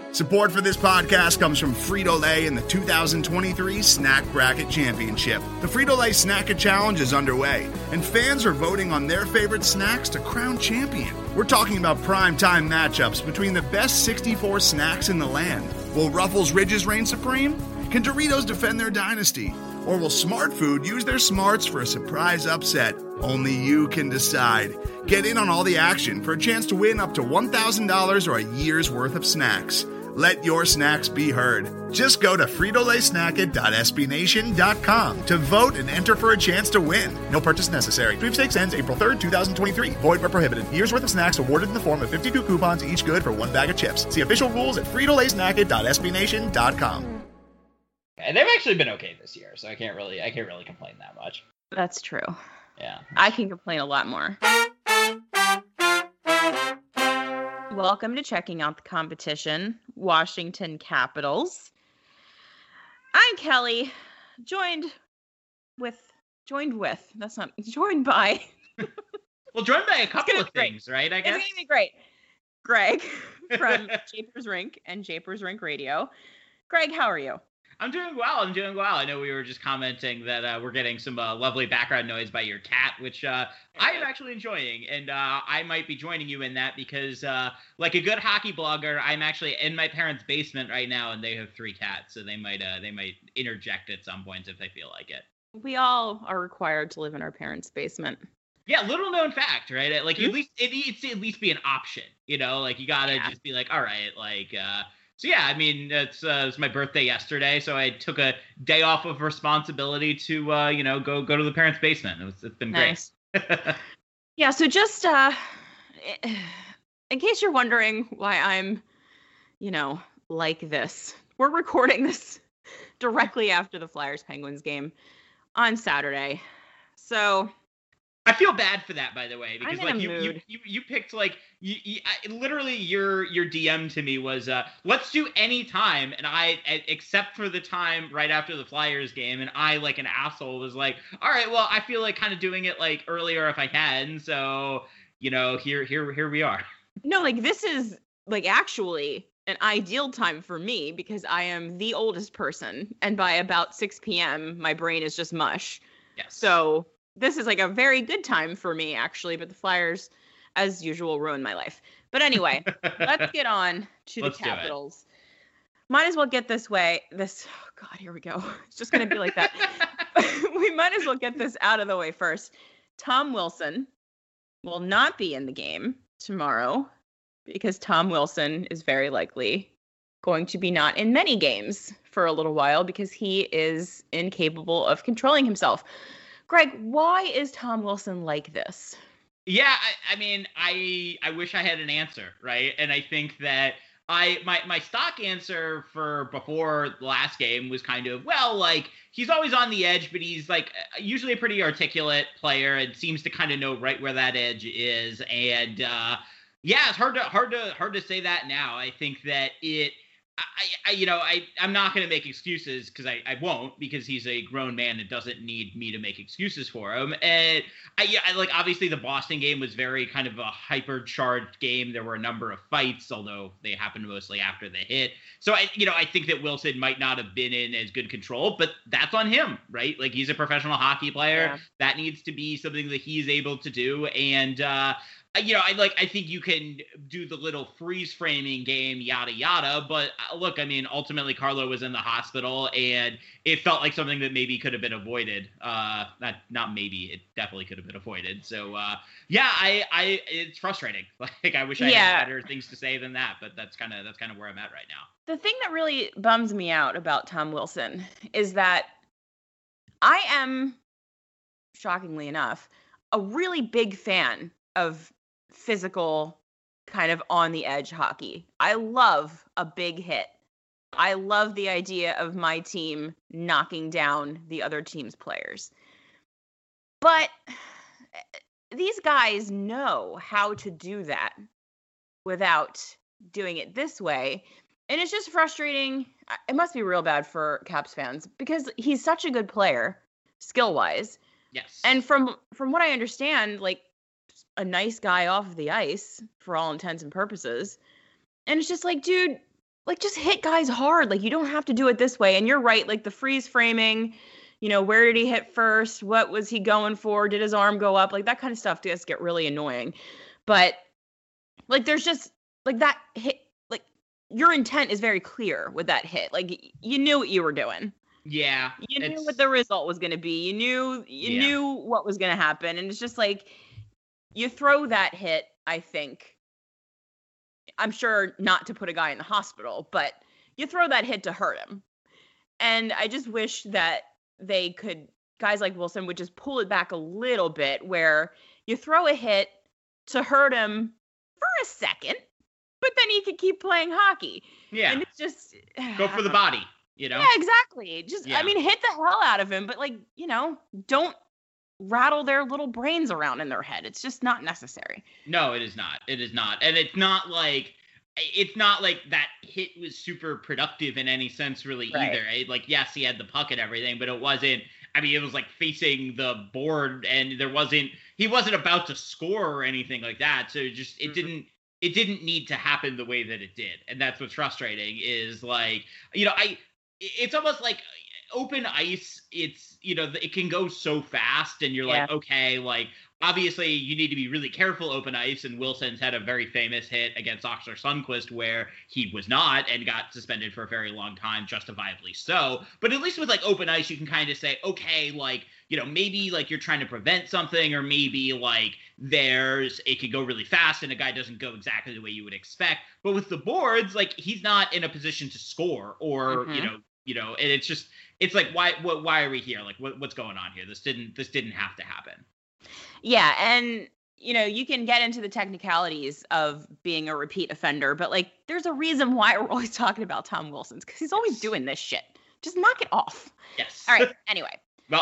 Support for this podcast comes from Frito-Lay and the 2023 Snack Bracket Championship. The Frito-Lay Snack It Challenge is underway, and fans are voting on their favorite snacks to crown champion. We're talking about prime-time matchups between the best 64 snacks in the land. Will Ruffles Ridges reign supreme? Can Doritos defend their dynasty? Or will Smart Food use their smarts for a surprise upset? Only you can decide. Get in on all the action for a chance to win up to $1,000 or a year's worth of snacks. Let your snacks be heard. Just go to fritolaysnacket.sbnation.com to vote and enter for a chance to win. No purchase necessary. Sweepstakes ends April 3rd, 2023. Void where prohibited. Year's worth of snacks awarded in the form of 52 coupons, each good for one bag of chips. See official rules at fritolaysnacket.sbnation.com. And they've actually been okay this year, so I can't really complain that much. That's true. Yeah. I can complain a lot more. Welcome to Checking Out the Competition, Washington Capitals. I'm Kelly, joined by. Well, joined by a couple of things, right? I guess. It's going to be great. Greg from Japers Rink and Japers Rink Radio. Greg, how are you? I'm doing well. I know we were just commenting that we're getting some lovely background noise by your cat, which I am actually enjoying. And I might be joining you in that because, like a good hockey blogger, I'm actually in my parents' basement right now, and they have 3 cats, so they might interject at some points if they feel like it. We all are required to live in our parents' basement. Yeah, little known fact, right? Like, at least it needs to at least be an option, you know? Like, you gotta just be like, all right, like, so yeah, I mean, it was my birthday yesterday, so I took a day off of responsibility to, go to the parents' basement. It's been nice. Great. Yeah, so just in case you're wondering why I'm, like this, we're recording this directly after the Flyers-Penguins game on Saturday. So I feel bad for that, by the way, because like you picked literally your DM to me was let's do any time, and I except for the time right after the Flyers game, and I like an asshole was like, all right, well I feel like kind of doing it like earlier if I can, so here we are. No, like this is like actually an ideal time for me because I am the oldest person, and by about 6 p.m. my brain is just mush. Yes. So this is like a very good time for me, actually, but the Flyers, as usual, ruin my life. But anyway, let's get on to the Capitals. Might as well get oh God, here we go. It's just going to be like that. We might as well get this out of the way first. Tom Wilson will not be in the game tomorrow because Tom Wilson is very likely going to be not in many games for a little while because he is incapable of controlling himself. Greg, why is Tom Wilson like this? Yeah, I mean, I wish I had an answer, right? And I think that my stock answer for before the last game was kind of, well, like, he's always on the edge, but he's like usually a pretty articulate player and seems to kind of know right where that edge is. And yeah, it's hard to say that now. I think that I'm not going to make excuses because I won't, because he's a grown man and doesn't need me to make excuses for him. And obviously the Boston game was very kind of a hyper-charged game. There were a number of fights, although they happened mostly after the hit. So I think that Wilson might not have been in as good control, but that's on him, right? Like, he's a professional hockey player. Yeah. That needs to be something that he's able to do. And, I think you can do the little freeze framing game, yada, yada. But look, I mean, ultimately Carlo was in the hospital and it felt like something that maybe could have been avoided. Not maybe, it definitely could have been avoided. So, it's frustrating. Like, I wish I had better things to say than that, but that's kind of where I'm at right now. The thing that really bums me out about Tom Wilson is that I am, shockingly enough, a really big fan of physical kind of on the edge hockey. I love a big hit. I love the idea of my team knocking down the other team's players. But these guys know how to do that without doing it this way. And it's just frustrating. It must be real bad for Caps fans because he's such a good player, skill-wise. Yes. And from what I understand, like, a nice guy off of the ice for all intents and purposes. And it's just like, dude, like, just hit guys hard. Like, you don't have to do it this way. And you're right. Like, the freeze framing, where did he hit first? What was he going for? Did his arm go up? Like, that kind of stuff does get really annoying. But, like, there's just, like, that hit, like, your intent is very clear with that hit. Like, you knew what you were doing. Yeah. You knew what the result was going to be. You knew what was going to happen. And it's just like, you throw that hit, I think, I'm sure not to put a guy in the hospital, but you throw that hit to hurt him. And I just wish that guys like Wilson would just pull it back a little bit, where you throw a hit to hurt him for a second, but then he could keep playing hockey. Yeah. And it's just go for the body, Yeah, exactly. I mean, hit the hell out of him, but like, don't rattle their little brains around in their head. It's just not necessary. No, it is not. It is not. And it's not like that hit was super productive in any sense really either. Right? Like, yes, he had the puck and everything, but it wasn't, it was like facing the board, and he wasn't about to score or anything like that. So it didn't need to happen the way that it did. And that's what's frustrating is like, it's almost like open ice, it's, it can go so fast, and you're like, okay, like, obviously you need to be really careful open ice, and Wilson's had a very famous hit against Oskar Sundqvist where he was not and got suspended for a very long time, justifiably so. But at least with like open ice, you can kind of say, okay, like, maybe like you're trying to prevent something, or maybe like it could go really fast and a guy doesn't go exactly the way you would expect. But with the boards, like, he's not in a position to score, or and it's like, why are we here? Like, what's going on here? This didn't have to happen. Yeah, and you can get into the technicalities of being a repeat offender, but like, there's a reason why we're always talking about Tom Wilson, because he's always doing this shit. Just knock it off. Yes. All right. Anyway. Well,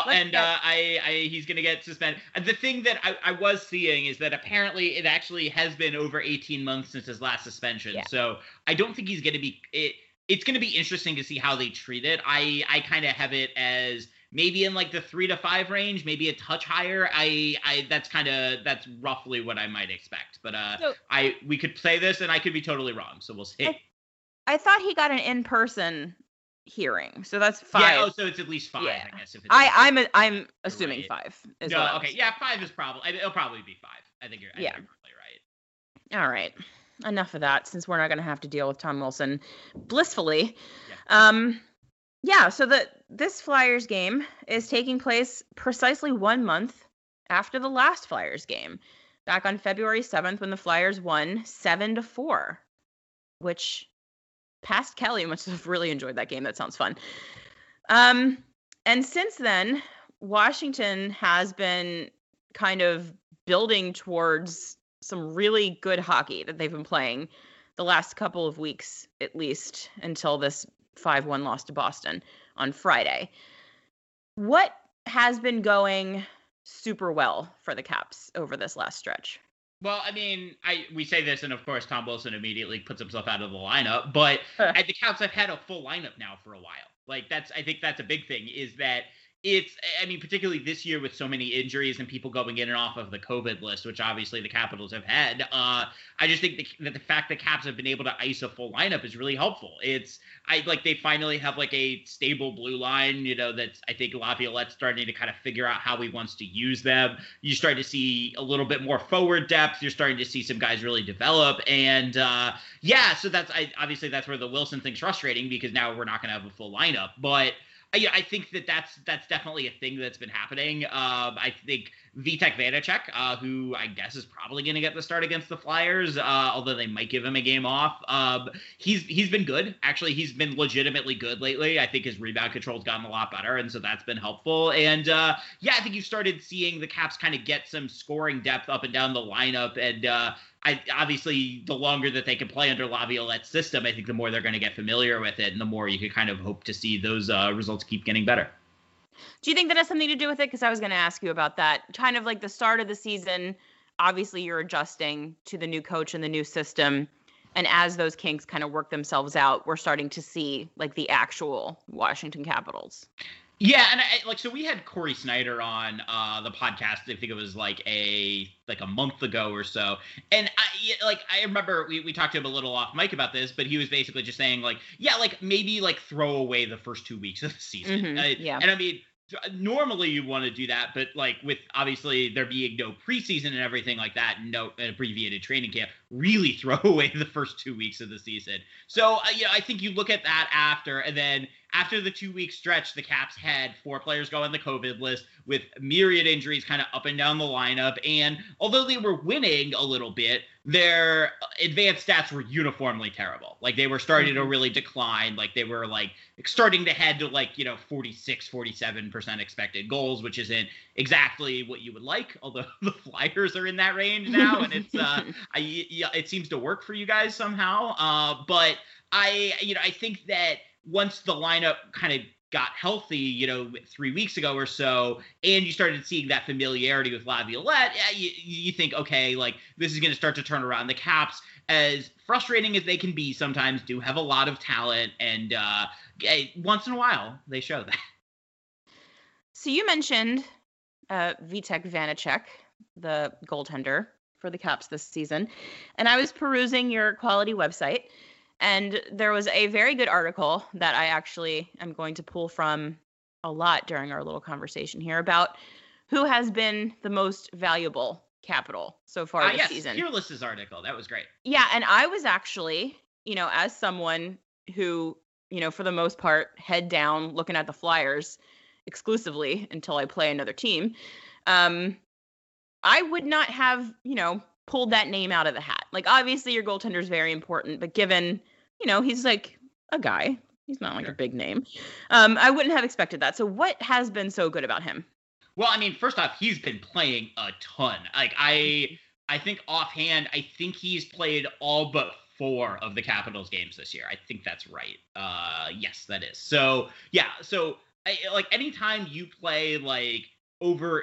he's going to get suspended. The thing that I was seeing is that apparently it actually has been over 18 months since his last suspension. Yeah. So I don't think he's going to be it's going to be interesting to see how they treat it. I kind of have it as maybe in like the 3 to 5 range, maybe a touch higher. That's roughly what I might expect. But we could play this and I could be totally wrong. So we'll see. I thought he got an in-person hearing, so that's 5. Yeah, so it's at least 5, I guess. If it's I'm assuming right. 5 is no, okay. Yeah, 5 is it'll probably be 5. I think you're probably right. All right. Enough of that, since we're not going to have to deal with Tom Wilson blissfully. Yeah. So this Flyers game is taking place precisely 1 month after the last Flyers game, back on February 7th, when the Flyers won 7-4, which past Kelly must have really enjoyed that game. That sounds fun. And since then, Washington has been kind of building towards some really good hockey that they've been playing the last couple of weeks, at least until this 5-1 loss to Boston on Friday. What has been going super well for the Caps over this last stretch? Well, we say this, and of course Tom Wilson immediately puts himself out of the lineup, but the Caps have had a full lineup now for a while. Like, I think that's a big thing, is that particularly this year with so many injuries and people going in and off of the COVID list, which obviously the Capitals have had, I just think that the fact that Caps have been able to ice a full lineup is really helpful. They finally have like a stable blue line, that's, I think Laviolette's starting to kind of figure out how he wants to use them. You're starting to see a little bit more forward depth. You're starting to see some guys really develop. And so obviously that's where the Wilson thing's frustrating, because now we're not going to have a full lineup. But I think that's definitely a thing that's been happening. I think Vitek Vanacek, who I guess is probably going to get the start against the Flyers, although they might give him a game off. He's been good. Actually, he's been legitimately good lately. I think his rebound control's gotten a lot better, and so that's been helpful. And I think you've started seeing the Caps kind of get some scoring depth up and down the lineup, and obviously, the longer that they can play under Laviolette's system, I think the more they're going to get familiar with it, and the more you can kind of hope to see those results keep getting better. Do you think that has something to do with it? Because I was going to ask you about that. Kind of like the start of the season, obviously you're adjusting to the new coach and the new system. And as those kinks kind of work themselves out, we're starting to see like the actual Washington Capitals. Yeah, and so we had Corey Snyder on the podcast. I think it was like a month ago or so, and I remember we talked to him a little off mic about this, but he was basically just saying maybe throw away the first 2 weeks of the season. Mm-hmm. Yeah, and I mean, normally you want to do that, but with obviously there being no preseason and everything like that, no abbreviated training camp, really throw away the first 2 weeks of the season. So I think you look at that after the 2 week stretch, the Caps had 4 players go on the COVID list with myriad injuries kind of up and down the lineup. And although they were winning a little bit, their advanced stats were uniformly terrible. They were starting to really decline. They were starting to head to 46, 47% expected goals, which isn't exactly what you would like. Although the Flyers are in that range now, and it's it seems to work for you guys somehow. But I think that once the lineup kind of got healthy, 3 weeks ago or so, and you started seeing that familiarity with Laviolette, you think, okay, this is going to start to turn around. The Caps, as frustrating as they can be sometimes, do have a lot of talent, and once in a while, they show that. So you mentioned Vitek Vanacek, the goaltender for the Caps this season, and I was perusing your quality website, and there was a very good article that I actually am going to pull from a lot during our little conversation here about who has been the most valuable Capital so far this season. Fearless's article. That was great. Yeah, and I was actually, as someone who, for the most part, head down looking at the Flyers exclusively until I play another team, I would not have, pulled that name out of the hat. Obviously your goaltender is very important, but given, he's a guy, he's not a big name. I wouldn't have expected that. So what has been so good about him? Well, I mean, first off, he's been playing a ton. I think offhand, I think he's played all but 4 of the Capitals games this year. I think that's right. Yes, that is. So yeah. So anytime you play over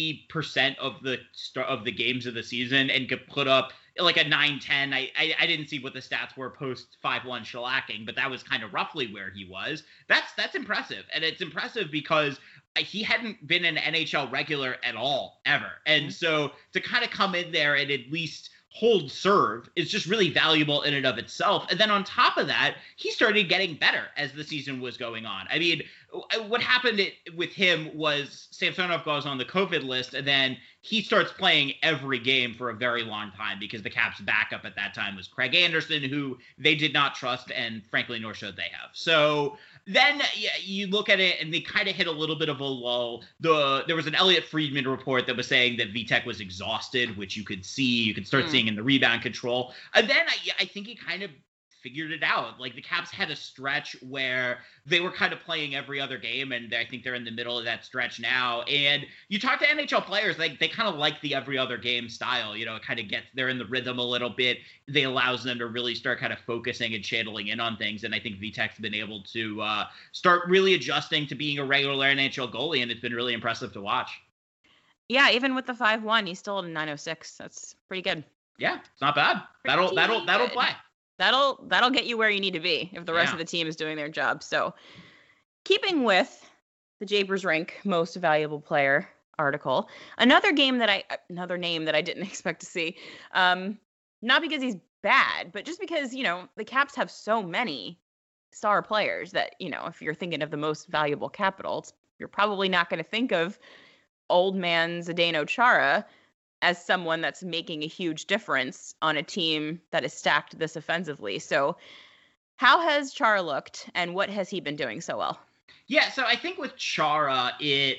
80% of the games of the season and could put up a 9-10. I didn't see what the stats were post 5-1 shellacking, but that was kind of roughly where he was. That's impressive. And it's impressive because he hadn't been an NHL regular at all, ever. And so to kind of come in there and at least hold serve is just really valuable in and of itself. And then on top of that, he started getting better as the season was going on. I mean, what happened with him was Samsonov goes on the COVID list, and then he starts playing every game for a very long time because the Caps' backup at that time was Craig Anderson, who they did not trust, and frankly, nor should they have. So then you look at it, and they kind of hit a little bit of a lull. There was an Elliot Friedman report that was saying that Vitek was exhausted, which you could see. You could start seeing in the rebound control. And then I think he kind of figured it out. The Caps had a stretch where they were kind of playing every other game, and I think they're in the middle of that stretch now. And you talk to NHL players, they kind of like the every other game style. It kind of they're in the rhythm a little bit. They allows them to really start kind of focusing and channeling in on things. And I think Vitek's been able to start really adjusting to being a regular NHL goalie, and it's been really impressive to watch. Yeah, even with the 5-1, he's still at a 906. That's pretty good. Yeah, it's not bad. That'll play. That'll get you where you need to be if the rest of the team is doing their job. So keeping with the Japers Rink most valuable player article, another name that I didn't expect to see, not because he's bad, but just because, the Caps have so many star players that, if you're thinking of the most valuable Capitals, you're probably not going to think of old man Zdeno Chara as someone that's making a huge difference on a team that is stacked this offensively. So how has Chara looked, and what has he been doing so well? Yeah, so I think with Chara, I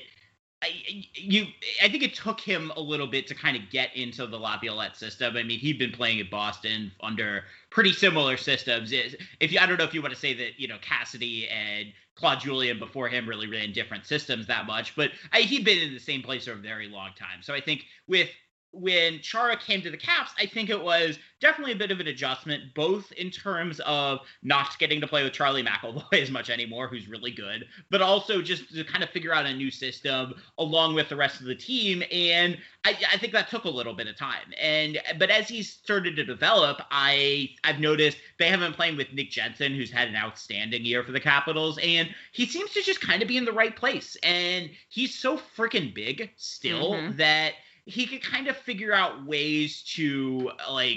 think it took him a little bit to kind of get into the Laviolette system. I mean, he'd been playing at Boston under pretty similar systems. I don't know if you want to say that, Cassidy and Claude Julien before him really ran different systems that much, but he'd been in the same place for a very long time. So I think with when Chara came to the Caps, I think it was definitely a bit of an adjustment, both in terms of not getting to play with Charlie McAvoy as much anymore, who's really good, but also just to kind of figure out a new system along with the rest of the team. And I think that took a little bit of time. But as he's started to develop, I've noticed they have been playing with Nick Jensen, who's had an outstanding year for the Capitals, and he seems to just kind of be in the right place. And he's so freaking big still that he could kind of figure out ways to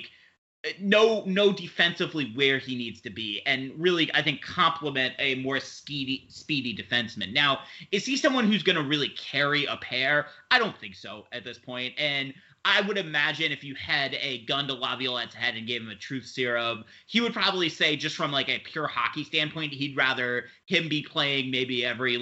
know defensively where he needs to be and really, I think, complement a more speedy defenseman. Now, is he someone who's going to really carry a pair? I don't think so at this point. And I would imagine if you had a gun to Laviolette's head and gave him a truth serum, he would probably say, just from a pure hockey standpoint, he'd rather him be playing maybe every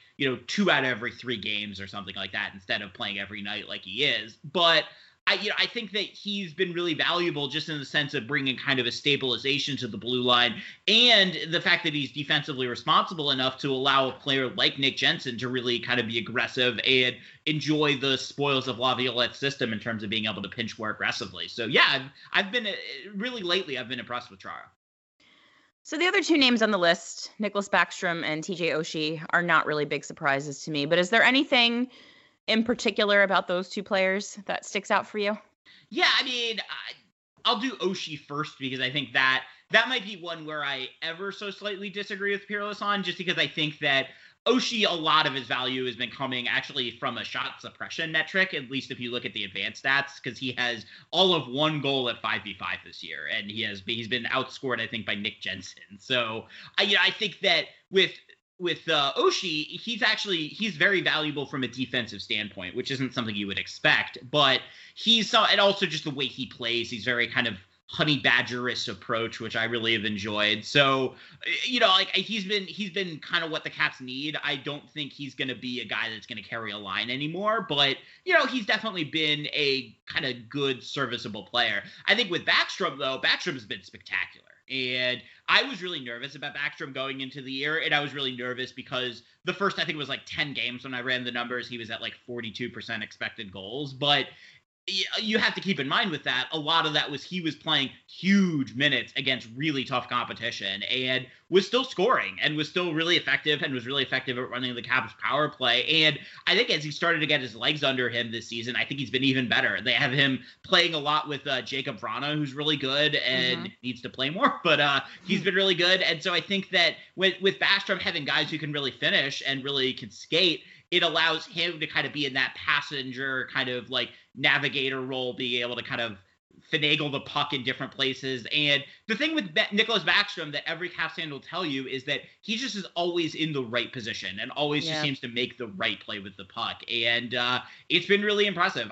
2 out of every 3 games or something like that instead of playing every night like he is. But I think that he's been really valuable just in the sense of bringing kind of a stabilization to the blue line, and the fact that he's defensively responsible enough to allow a player like Nick Jensen to really kind of be aggressive and enjoy the spoils of Laviolette's system in terms of being able to pinch more aggressively. So yeah, I've been lately I've been impressed with Chara. So the other 2 names on the list, Nicklas Backstrom and TJ Oshie, are not really big surprises to me. But is there anything in particular about those 2 players that sticks out for you? Yeah, I mean, I'll do Oshie first because I think that might be one where I ever so slightly disagree with Peerless on, just because I think that Oshie, a lot of his value has been coming actually from a shot suppression metric, at least if you look at the advanced stats, because he has all of 1 goal at 5v5 this year, and he's been outscored, I think, by Nick Jensen. So I think that with Oshie, he's very valuable from a defensive standpoint, which isn't something you would expect, but and also just the way he plays, he's very kind of honey badgerist approach, which I really have enjoyed. So, he's been kind of what the Caps need. I don't think he's going to be a guy that's going to carry a line anymore, but he's definitely been a kind of good, serviceable player. I think with Backstrom, though, Backstrom's been spectacular. And I was really nervous about Backstrom going into the year, and I was really nervous because the first, I think it was 10 games when I ran the numbers, he was at 42% expected goals. But you have to keep in mind with that, a lot of that was he was playing huge minutes against really tough competition and was still scoring and was still really effective and was really effective at running the Caps power play. And I think as he started to get his legs under him this season, I think he's been even better. They have him playing a lot with Jacob Vrana, who's really good and needs to play more, but he's been really good. And so I think that with Backstrom having guys who can really finish and really can skate, it allows him to kind of be in that passenger kind of navigator role, being able to kind of finagle the puck in different places. And the thing with Nicklas Backstrom that every Caps fan will tell you is that he just is always in the right position and always just seems to make the right play with the puck. And it's been really impressive.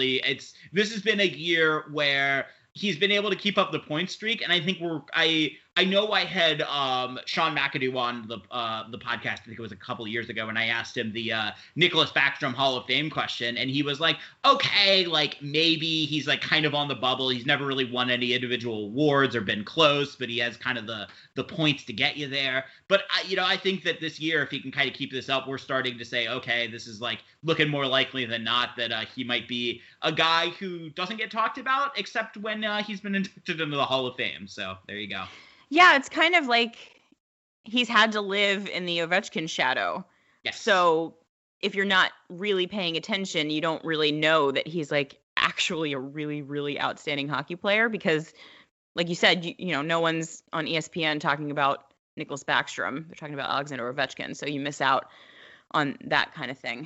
This has been a year where he's been able to keep up the point streak, and I think I know I had Sean McAdoo on the podcast, I think it was a couple of years ago, and I asked him the Nicklas Backstrom Hall of Fame question, and he was like, okay, maybe he's kind of on the bubble. He's never really won any individual awards or been close, but he has kind of the points to get you there. But I think that this year, if he can kind of keep this up, we're starting to say, okay, this is looking more likely than not that he might be a guy who doesn't get talked about except when he's been inducted into the Hall of Fame. So there you go. Yeah, it's kind of like he's had to live in the Ovechkin shadow. Yes. So if you're not really paying attention, you don't really know that he's actually a really, really outstanding hockey player because, like you said, no one's on ESPN talking about Nicklas Backstrom. They're talking about Alexander Ovechkin, so you miss out on that kind of thing.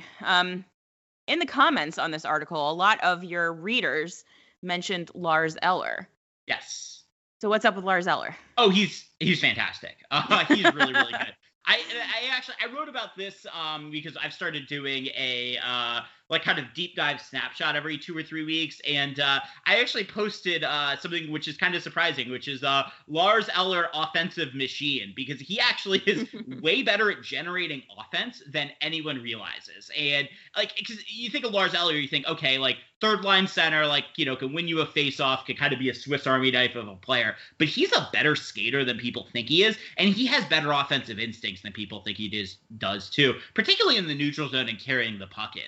In the comments on this article, a lot of your readers mentioned Lars Eller. Yes. So what's up with Lars Eller? Oh, he's fantastic. He's really, really good. I wrote about this because I've started doing a kind of deep dive snapshot every 2 or 3 weeks, and I actually posted something which is kind of surprising, which is Lars Eller offensive machine, because he actually is way better at generating offense than anyone realizes. And because you think of Lars Eller, you think, okay, third line center, can win you a face-off, can kind of be a Swiss Army knife of a player, but he's a better skater than people think he is, and he has better offensive instincts than people think he does too, particularly in the neutral zone and carrying the puck in. So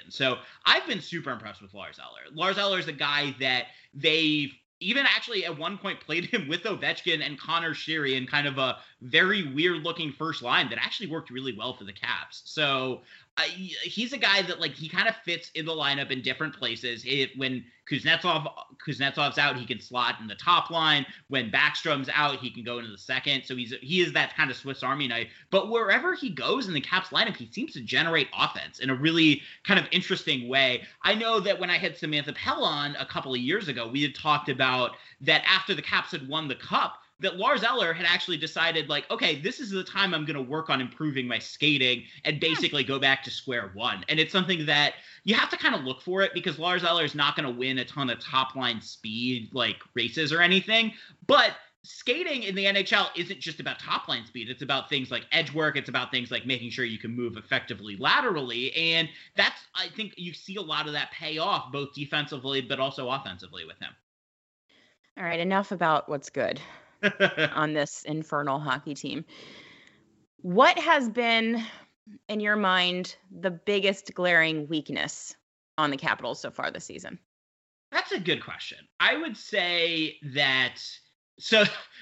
I've been super impressed with Lars Eller. Lars Eller is a guy that they've even actually at one point played him with Ovechkin and Connor Sheary in kind of a very weird-looking first line that actually worked really well for the Caps. So he's a guy that, like, he kind of fits in the lineup in different places. When Kuznetsov's out, he can slot in the top line. When Backstrom's out, he can go into the second. So he is that kind of Swiss Army knife. But wherever he goes in the Caps lineup, he seems to generate offense in a really kind of interesting way. I know that when I had Samantha Pell on a couple of years ago, we had talked about that after the Caps had won the Cup, that Lars Eller had actually decided, like, okay, this is the time I'm going to work on improving my skating and basically go back to square one. And it's something that you have to kind of look for it, because Lars Eller is not going to win a ton of top line speed, like races or anything. But skating in the NHL isn't just about top line speed. It's about things like edge work. It's about things like making sure you can move effectively laterally. And that's, I think you see a lot of that pay off both defensively, but also offensively with him. All right, enough about what's good on this infernal hockey team. What has been, in your mind, the biggest glaring weakness on the Capitals so far this season? That's a good question. I would say that. So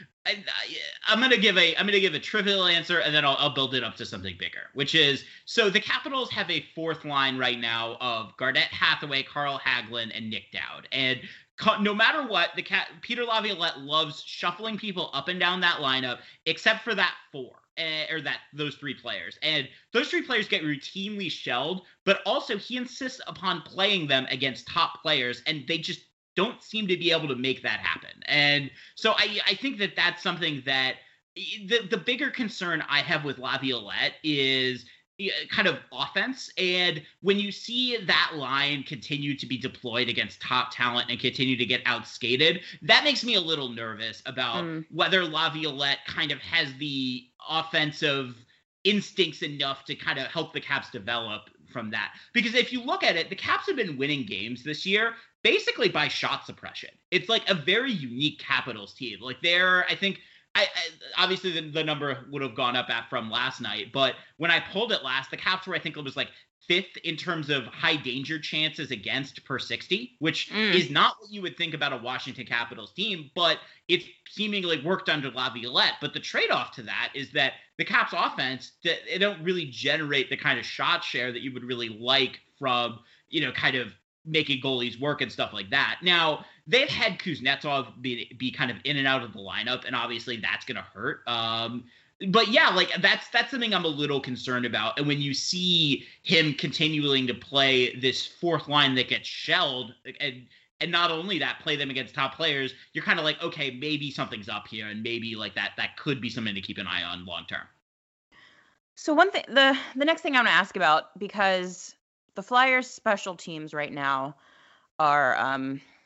I'm gonna give a trivial answer, and then I'll build it up to something bigger, which is, so the Capitals have a fourth line right now of Garnett Hathaway, Carl Hagelin, and Nick Dowd, and no matter what, Peter Laviolette loves shuffling people up and down that lineup, except for those three players. And those three players get routinely shelled, but also he insists upon playing them against top players, and they just don't seem to be able to make that happen. And so I think that that's something that the bigger concern I have with Laviolette is kind of offense. And when you see that line continue to be deployed against top talent and continue to get outskated, that makes me a little nervous about whether Laviolette kind of has the offensive instincts enough to kind of help the Caps develop from that. Because if you look at it, the Caps have been winning games this year basically by shot suppression. It's like a very unique Capitals team. Like I think obviously the number would have gone up from last night, but when I pulled it last, the Caps were, I think it was like fifth in terms of high danger chances against per 60, which is not what you would think about a Washington Capitals team, but it's seemingly worked under Laviolette. But the trade-off to that is that the Caps offense, they don't really generate the kind of shot share that you would really like from, kind of making goalies work and stuff like that. Now, they've had Kuznetsov be kind of in and out of the lineup, and obviously that's going to hurt. But yeah, like that's something I'm a little concerned about. And when you see him continuing to play this fourth line that gets shelled, and not only that, play them against top players, you're kind of like, okay, maybe something's up here, and maybe like that could be something to keep an eye on long term. So one thing, the next thing I want to ask about, because the Flyers special teams right now are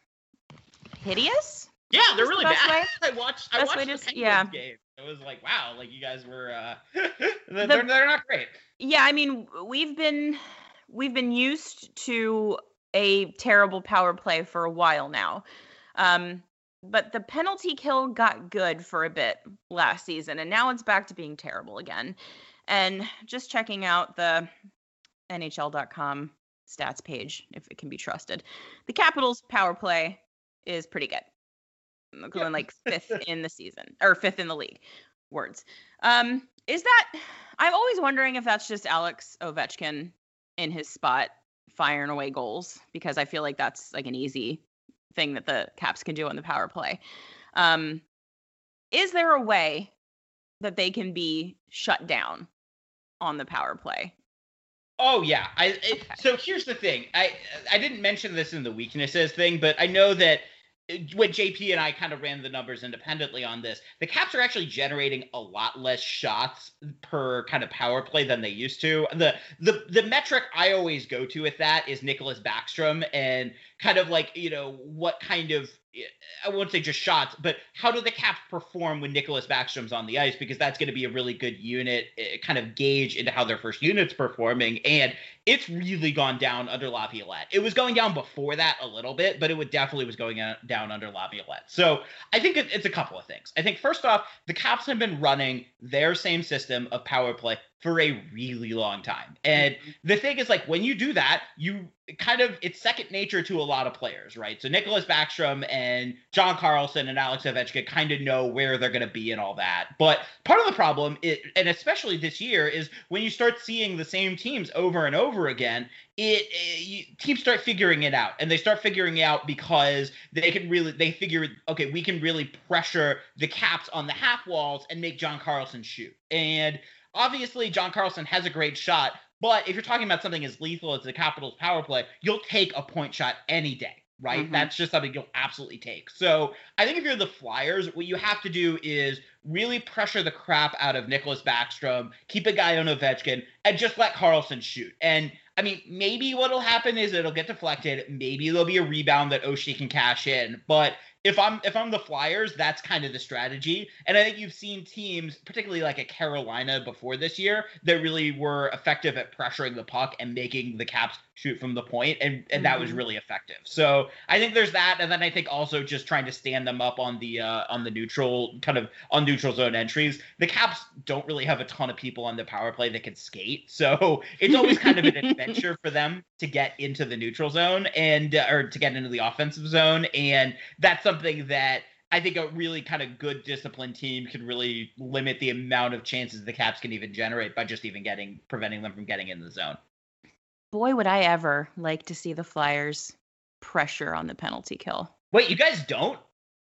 hideous. Yeah, they're really bad. Way? I watched the Penguins game. It was like, wow, like you guys were they're not great. Yeah, I mean, we've been used to a terrible power play for a while now. But the penalty kill got good for a bit last season, and now it's back to being terrible again. And just checking out the NHL.com stats page, if it can be trusted, the Capitals' power play is pretty good. Going like fifth in the season, or fifth in the league. Words. Is that? I'm always wondering if that's just Alex Ovechkin in his spot firing away goals, because I feel like that's like an easy thing that the Caps can do on the power play. Is there a way that they can be shut down on the power play? Oh yeah. So here's the thing. I didn't mention this in the weaknesses thing, but I know that when JP and I kind of ran the numbers independently on this, the Caps are actually generating a lot less shots per kind of power play than they used to. The metric I always go to with that is Nicholas Backstrom, and kind of like, what kind of, I won't say just shots, but how do the Caps perform when Nicholas Backstrom's on the ice? Because that's going to be a really good unit, kind of gauge into how their first unit's performing. And it's really gone down under Laviolette. It was going down before that a little bit, but it definitely was going down under Laviolette. So I think it's a couple of things. I think first off, the Caps have been running their same system of power play for a really long time. And the thing is, like, when you do that, you kind of, it's second nature to a lot of players, right? So Nicholas Backstrom and John Carlson and Alex Ovechkin kind of know where they're going to be and all that. But part of the problem, and especially this year, is when you start seeing the same teams over and over again, teams start figuring it out. And they start figuring it out because they figure, okay, we can really pressure the Caps on the half walls and make John Carlson shoot. And obviously, John Carlson has a great shot, but if you're talking about something as lethal as the Capitals power play, you'll take a point shot any day, right? Mm-hmm. That's just something you'll absolutely take. So I think if you're the Flyers, what you have to do is really pressure the crap out of Nicholas Backstrom, keep a guy on Ovechkin, and just let Carlson shoot. And I mean, maybe what'll happen is it'll get deflected. Maybe there'll be a rebound that Oshie can cash in, but if I'm the Flyers, that's kind of the strategy. And I think you've seen teams, particularly like a Carolina before this year, that really were effective at pressuring the puck and making the Caps shoot from the point, and that was really effective. So I think there's that, and then I think also just trying to stand them up on the neutral, kind of on neutral zone entries. The Caps don't really have a ton of people on the power play that can skate, so it's always kind of an adventure for them to get into the neutral zone and or to get into the offensive zone, and that's something that I think a really kind of good disciplined team can really limit the amount of chances the Caps can even generate by just even preventing them from getting in the zone. Boy, would I ever like to see the Flyers pressure on the penalty kill. Wait, you guys don't?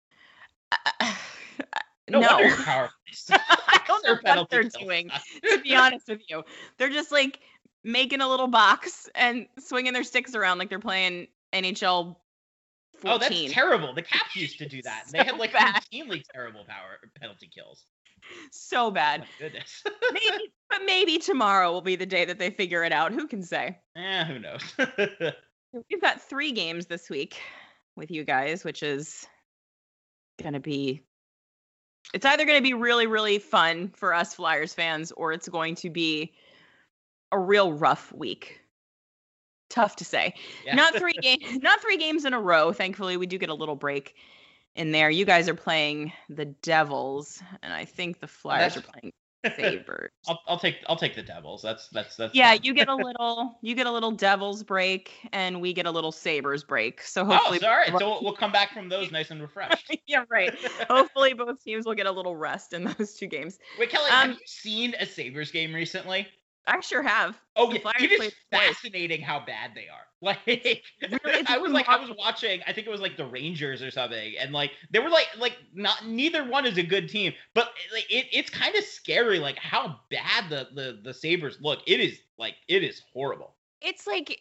No. Wonder power I don't know what they're doing, to be honest with you. They're just like making a little box and swinging their sticks around like they're playing NHL 14. Oh, that's terrible. The Caps used to do that. They had like routinely terrible penalty kills. So bad. Oh, my goodness. maybe tomorrow will be the day that they figure it out. Who can say? Who knows? We've got 3 games this week with you guys, which is going to be... It's either going to be really, really fun for us Flyers fans, or it's going to be a real rough week. Tough to say. Yeah. Not 3 games in a row. Thankfully, we do get a little break in there. You guys are playing the Devils, and I think the Flyers are playing Sabres. I'll take the Devils. That's yeah. You get a little Devils break, and we get a little Sabres break. So hopefully, so we'll come back from those nice and refreshed. Yeah, right. Hopefully, both teams will get a little rest in those 2 games. Wait, Kelly, have you seen a Sabres game recently? I sure have. Oh, yeah. It is fascinating how bad they are. Like, I was watching, I think it was like the Rangers or something, and like they were like neither one is a good team, but like it's kind of scary, like how bad the Sabres look. It is horrible. It's like,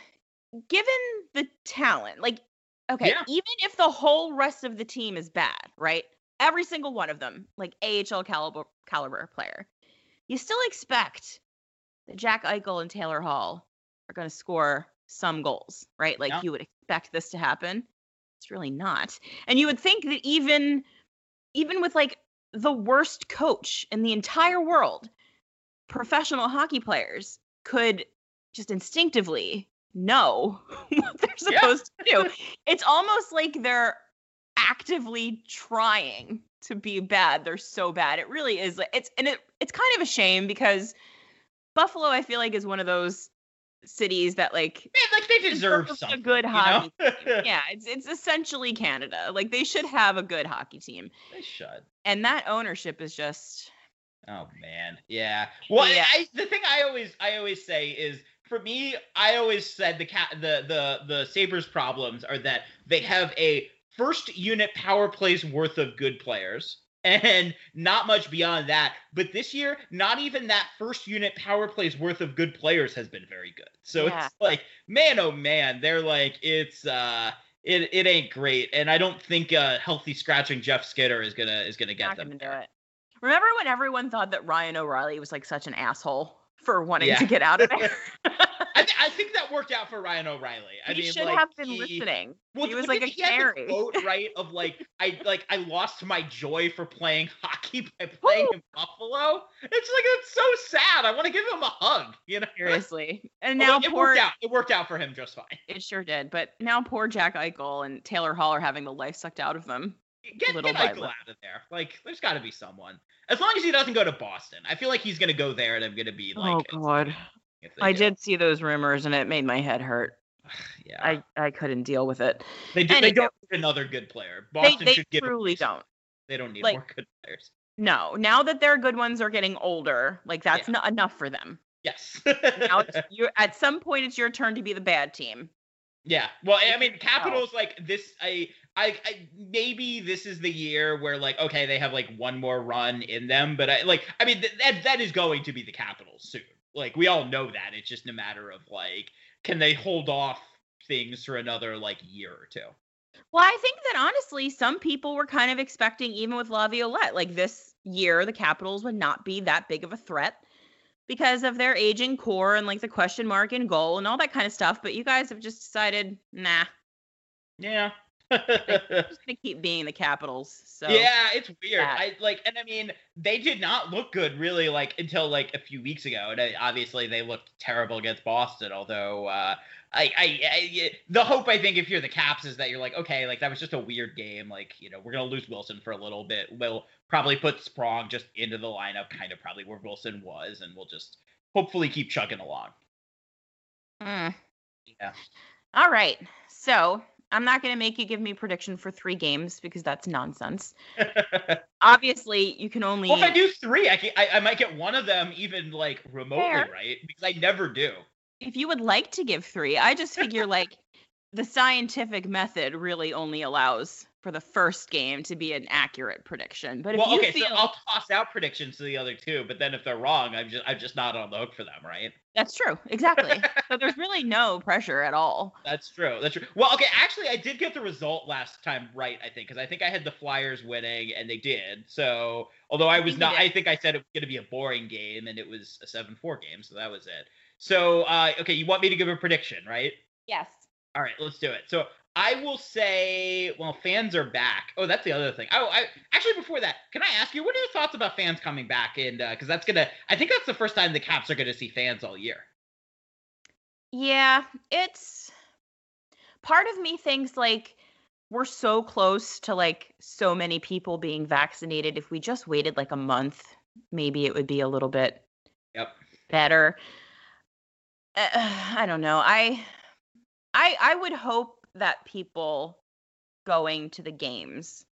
given the talent, like, okay, even if the whole rest of the team is bad, right? Every single one of them, like AHL caliber player, you still expect that Jack Eichel and Taylor Hall are going to score some goals, right? Like you would expect this to happen. It's really not. And you would think that even with like the worst coach in the entire world, professional hockey players could just instinctively know what they're supposed to do. It's almost like they're actively trying to be bad. They're so bad. It really is. It's kind of a shame because Buffalo, I feel like, is one of those cities that like they deserve something, a good hockey team. Yeah, it's essentially Canada. Like they should have a good hockey team. They should. And that ownership is just. Oh man, yeah. Well, yeah. The thing I always say is, for me, I always said the Sabres' problems are that they have a first unit power plays worth of good players. And not much beyond that. But this year, not even that first unit power plays worth of good players has been very good. So it's like, man, oh man, they're like, it ain't great. And I don't think healthy scratching Jeff Skinner is gonna get them. Do it. Remember when everyone thought that Ryan O'Reilly was like such an asshole for wanting to get out of there? I think that worked out for Ryan O'Reilly. He should have been listening. Well, he was like a canary. Quote, right, of I lost my joy for playing hockey by playing in Buffalo. It's like, it's so sad. I want to give him a hug, you know. Seriously. And now it worked out for him just fine. It sure did. But now poor Jack Eichel and Taylor Hall are having the life sucked out of them Get little by Eichel little. out of there. Like, there's got to be someone. As long as he doesn't go to Boston. I feel like he's going to go there, and I'm going to be like, Oh God, I did see those rumors, and it made my head hurt. Yeah, I couldn't deal with it. They don't need another good player. Boston should give. They truly don't. They don't need more good players. No, now that their good ones are getting older, like that's not enough for them. Yes. Now at some point it's your turn to be the bad team. Yeah. Well, I mean, Capitals like this. I maybe this is the year where like, okay, they have like one more run in them, but I mean that is going to be the Capitals soon. Like, we all know that. It's just a matter of like, can they hold off things for another like year or two? Well, I think that honestly, some people were kind of expecting, even with Laviolette, like this year, the Capitals would not be that big of a threat because of their aging core and like the question mark in goal and all that kind of stuff. But you guys have just decided, nah. Yeah. They're just gonna keep being the Capitals. So yeah, it's weird. I mean, they did not look good really like until like a few weeks ago, and obviously they looked terrible against Boston. Although the hope, I think, if you're the Caps, is that you're like, okay, like that was just a weird game. Like, you know, we're gonna lose Wilson for a little bit. We'll probably put Sprong just into the lineup, kind of probably where Wilson was, and we'll just hopefully keep chugging along. Yeah. All right. So I'm not going to make you give me prediction for 3 games because that's nonsense. Obviously, you can only. Well, if I do 3, I might get one of them even like remotely right, because I never do. If you would like to give 3, I just figure like the scientific method really only allows for the first game to be an accurate prediction. But if so I'll toss out predictions to the other 2, but then if they're wrong, I'm just not on the hook for them, right? That's true. Exactly. So there's really no pressure at all. That's true. Well, okay, actually, I did get the result last time right, I think, because I think I had the Flyers winning, and they did. So, although I think I said it was going to be a boring game, and it was a 7-4 game, so that was it. So, okay, you want me to give a prediction, right? Yes. All right, let's do it. So, I will say, well, fans are back. Oh, that's the other thing. Actually, before that, can I ask you, what are your thoughts about fans coming back? And because I think that's the first time the Caps are going to see fans all year. Yeah, it's part of me thinks like we're so close to like so many people being vaccinated. If we just waited like a month, maybe it would be a little bit better. I don't know. I would hope that people going to the games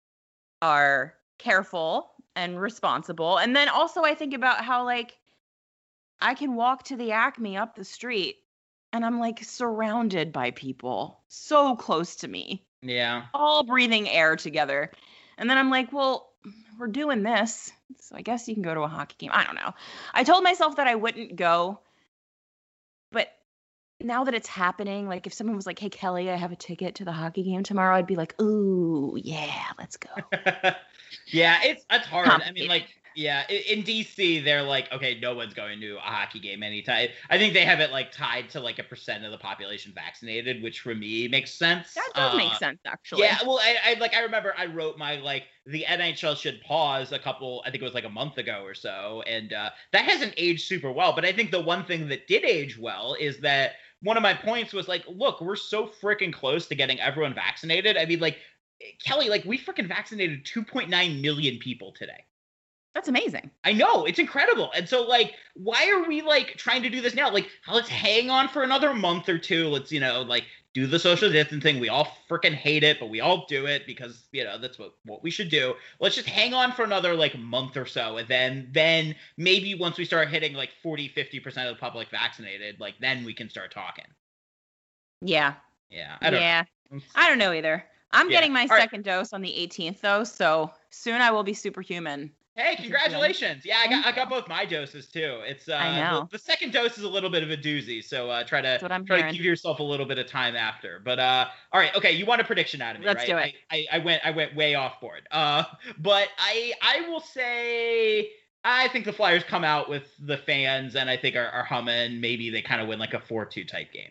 are careful and responsible. And then also I think about how like I can walk to the Acme up the street and I'm like surrounded by people so close to me. Yeah. All breathing air together. And then I'm like, well, we're doing this, so I guess you can go to a hockey game. I don't know. I told myself that I wouldn't go, but now that it's happening, like if someone was like, hey, Kelly, I have a ticket to the hockey game tomorrow, I'd be like, ooh, yeah, let's go. Yeah, it's hard. I mean, like, yeah, in DC, they're like, okay, no one's going to a hockey game anytime. I think they have it like tied to like a % of the population vaccinated, which for me makes sense. That does make sense, actually. Yeah, well, I remember I wrote my like the NHL should pause I think it was like a month ago or so, and that hasn't aged super well. But I think the one thing that did age well is that one of my points was like, look, we're so freaking close to getting everyone vaccinated. I mean, like, Kelly, like we freaking vaccinated 2.9 million people today. That's amazing. I know, it's incredible. And so, like, why are we, like, trying to do this now? Like, let's hang on for another month or two. Let's, you know, like, do the social distancing. We all freaking hate it, but we all do it because, you know, that's what we should do. Let's just hang on for another, like, month or so. And then maybe once we start hitting, like, 50% of the public vaccinated, like, then we can start talking. Yeah. Yeah. I don't know either. I'm getting my second dose on the 18th, though, so soon I will be superhuman. Hey, congratulations! Yeah, I got both my doses too. It's I know. The second dose is a little bit of a doozy, so try to give yourself a little bit of time after. But all right, okay, you want a prediction out of me, Let's right? do it. I went way off board. But I will say I think the Flyers come out with the fans, and I think are humming. Maybe they kind of win like a 4-2 type game.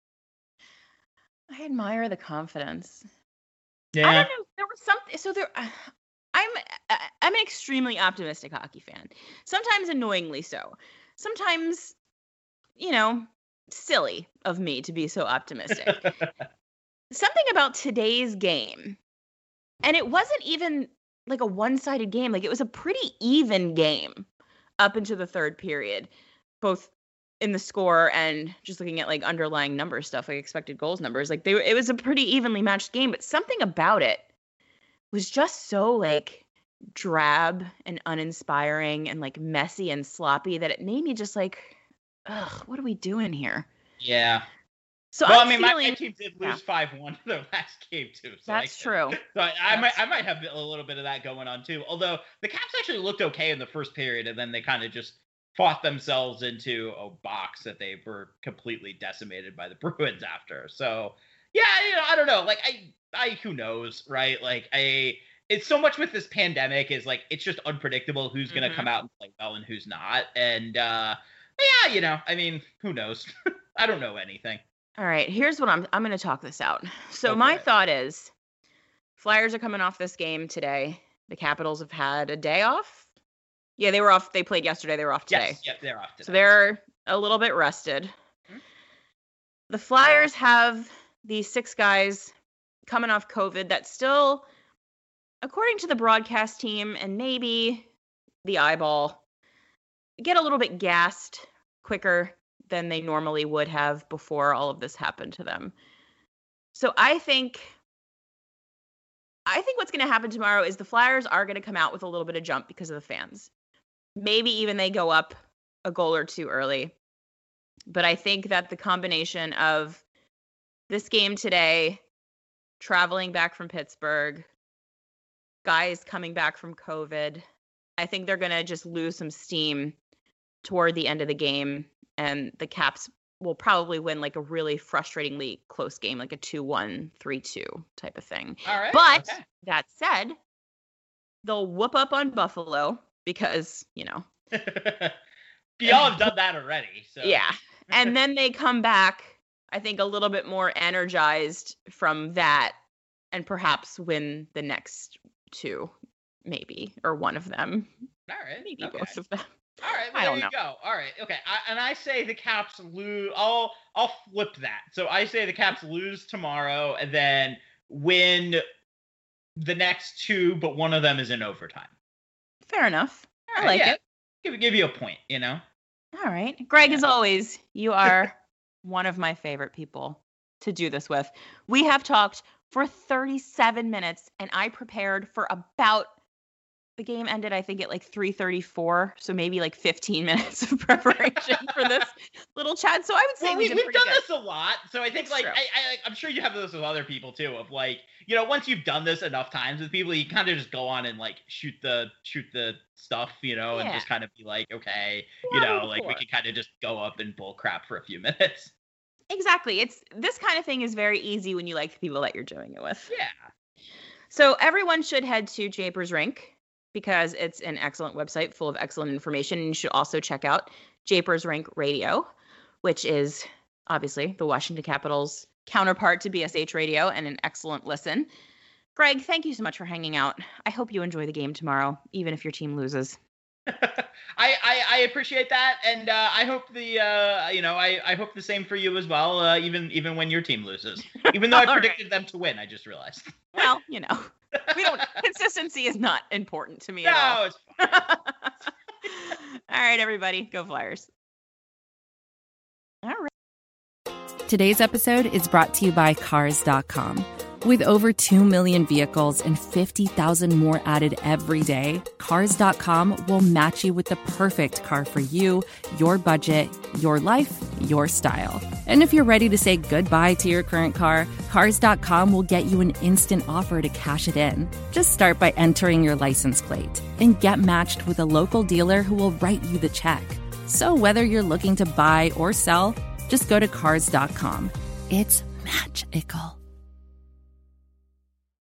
I admire the confidence. Yeah. I don't know. There was something. So there. I'm an extremely optimistic hockey fan. Sometimes annoyingly so. Sometimes, you know, silly of me to be so optimistic. Something about today's game And it wasn't even like a one-sided game. Like, it was a pretty even game up into the third period, both in the score and just looking at like underlying number stuff, like expected goals numbers. Like, it was a pretty evenly matched game, but something about it was just so like drab and uninspiring and like messy and sloppy that it made me just like, ugh, what are we doing here? Yeah. So well, I'm I mean, feeling, my team did lose 5-1 their last game too. So that's true. So I might have a little bit of that going on too. Although the Caps actually looked okay in the first period, and then they kind of just fought themselves into a box that they were completely decimated by the Bruins after. So yeah, I don't know. Like I who knows, right? Like it's so much with this pandemic is like it's just unpredictable who's gonna come out and play well and who's not. And yeah, I mean, who knows? I don't know anything. All right, here's what I'm going to talk this out. So my thought is Flyers are coming off this game today. The Capitals have had a day off. Yeah, they were off. They played yesterday. They were off today. Yes, they're off today. So they're a little bit rested. Mm-hmm. The Flyers have these 6 guys coming off COVID that still, according to the broadcast team and maybe the eyeball, get a little bit gassed quicker than they normally would have before all of this happened to them. So I think what's going to happen tomorrow is the Flyers are going to come out with a little bit of jump because of the fans. Maybe even they go up a goal or two early. But I think that the combination of this game today, traveling back from Pittsburgh, guys coming back from COVID, I think they're going to just lose some steam toward the end of the game. And the Caps will probably win like a really frustratingly close game, like a 2-1, 3-2 type of thing. All right. But that said, they'll whoop up on Buffalo because, y'all have done that already. So yeah. And then they come back, I think, a little bit more energized from that and perhaps win the next 2, maybe, or one of them. All right. Maybe both of them. All right, well, there you go. All right, okay. I say the Caps lose. I'll flip that. So I say the Caps lose tomorrow and then win the next 2, but one of them is in overtime. Fair enough. I like it. Give you a point, All right. Greg, as always, you are one of my favorite people to do this with. We have talked for 37 minutes, and I prepared for about... The game ended, I think, at like 3:34, so maybe like 15 minutes of preparation for this little chat. So I would say we've done this a lot. So I think I'm sure you have this with other people too. Of like, once you've done this enough times with people, you kind of just go on and like shoot the stuff, and just kind of be like, okay, we can kind of just go up and bull crap for a few minutes. Exactly. It's this kind of thing is very easy when you like the people that you're doing it with. Yeah. So everyone should head to Japers Rink, because it's an excellent website full of excellent information. And you should also check out Japers Rink Radio, which is obviously the Washington Capitals counterpart to BSH Radio and an excellent listen. Greg, thank you so much for hanging out. I hope you enjoy the game tomorrow, even if your team loses. I appreciate that, and I hope I hope the same for you as well. Even when your team loses, even though I predicted them to win, I just realized. Well, consistency is not important to me at all. No, it's fine. All right, everybody, go Flyers. All right. Today's episode is brought to you by Cars.com. With over 2 million vehicles and 50,000 more added every day, Cars.com will match you with the perfect car for you, your budget, your life, your style. And if you're ready to say goodbye to your current car, Cars.com will get you an instant offer to cash it in. Just start by entering your license plate and get matched with a local dealer who will write you the check. So whether you're looking to buy or sell, just go to Cars.com. It's magical.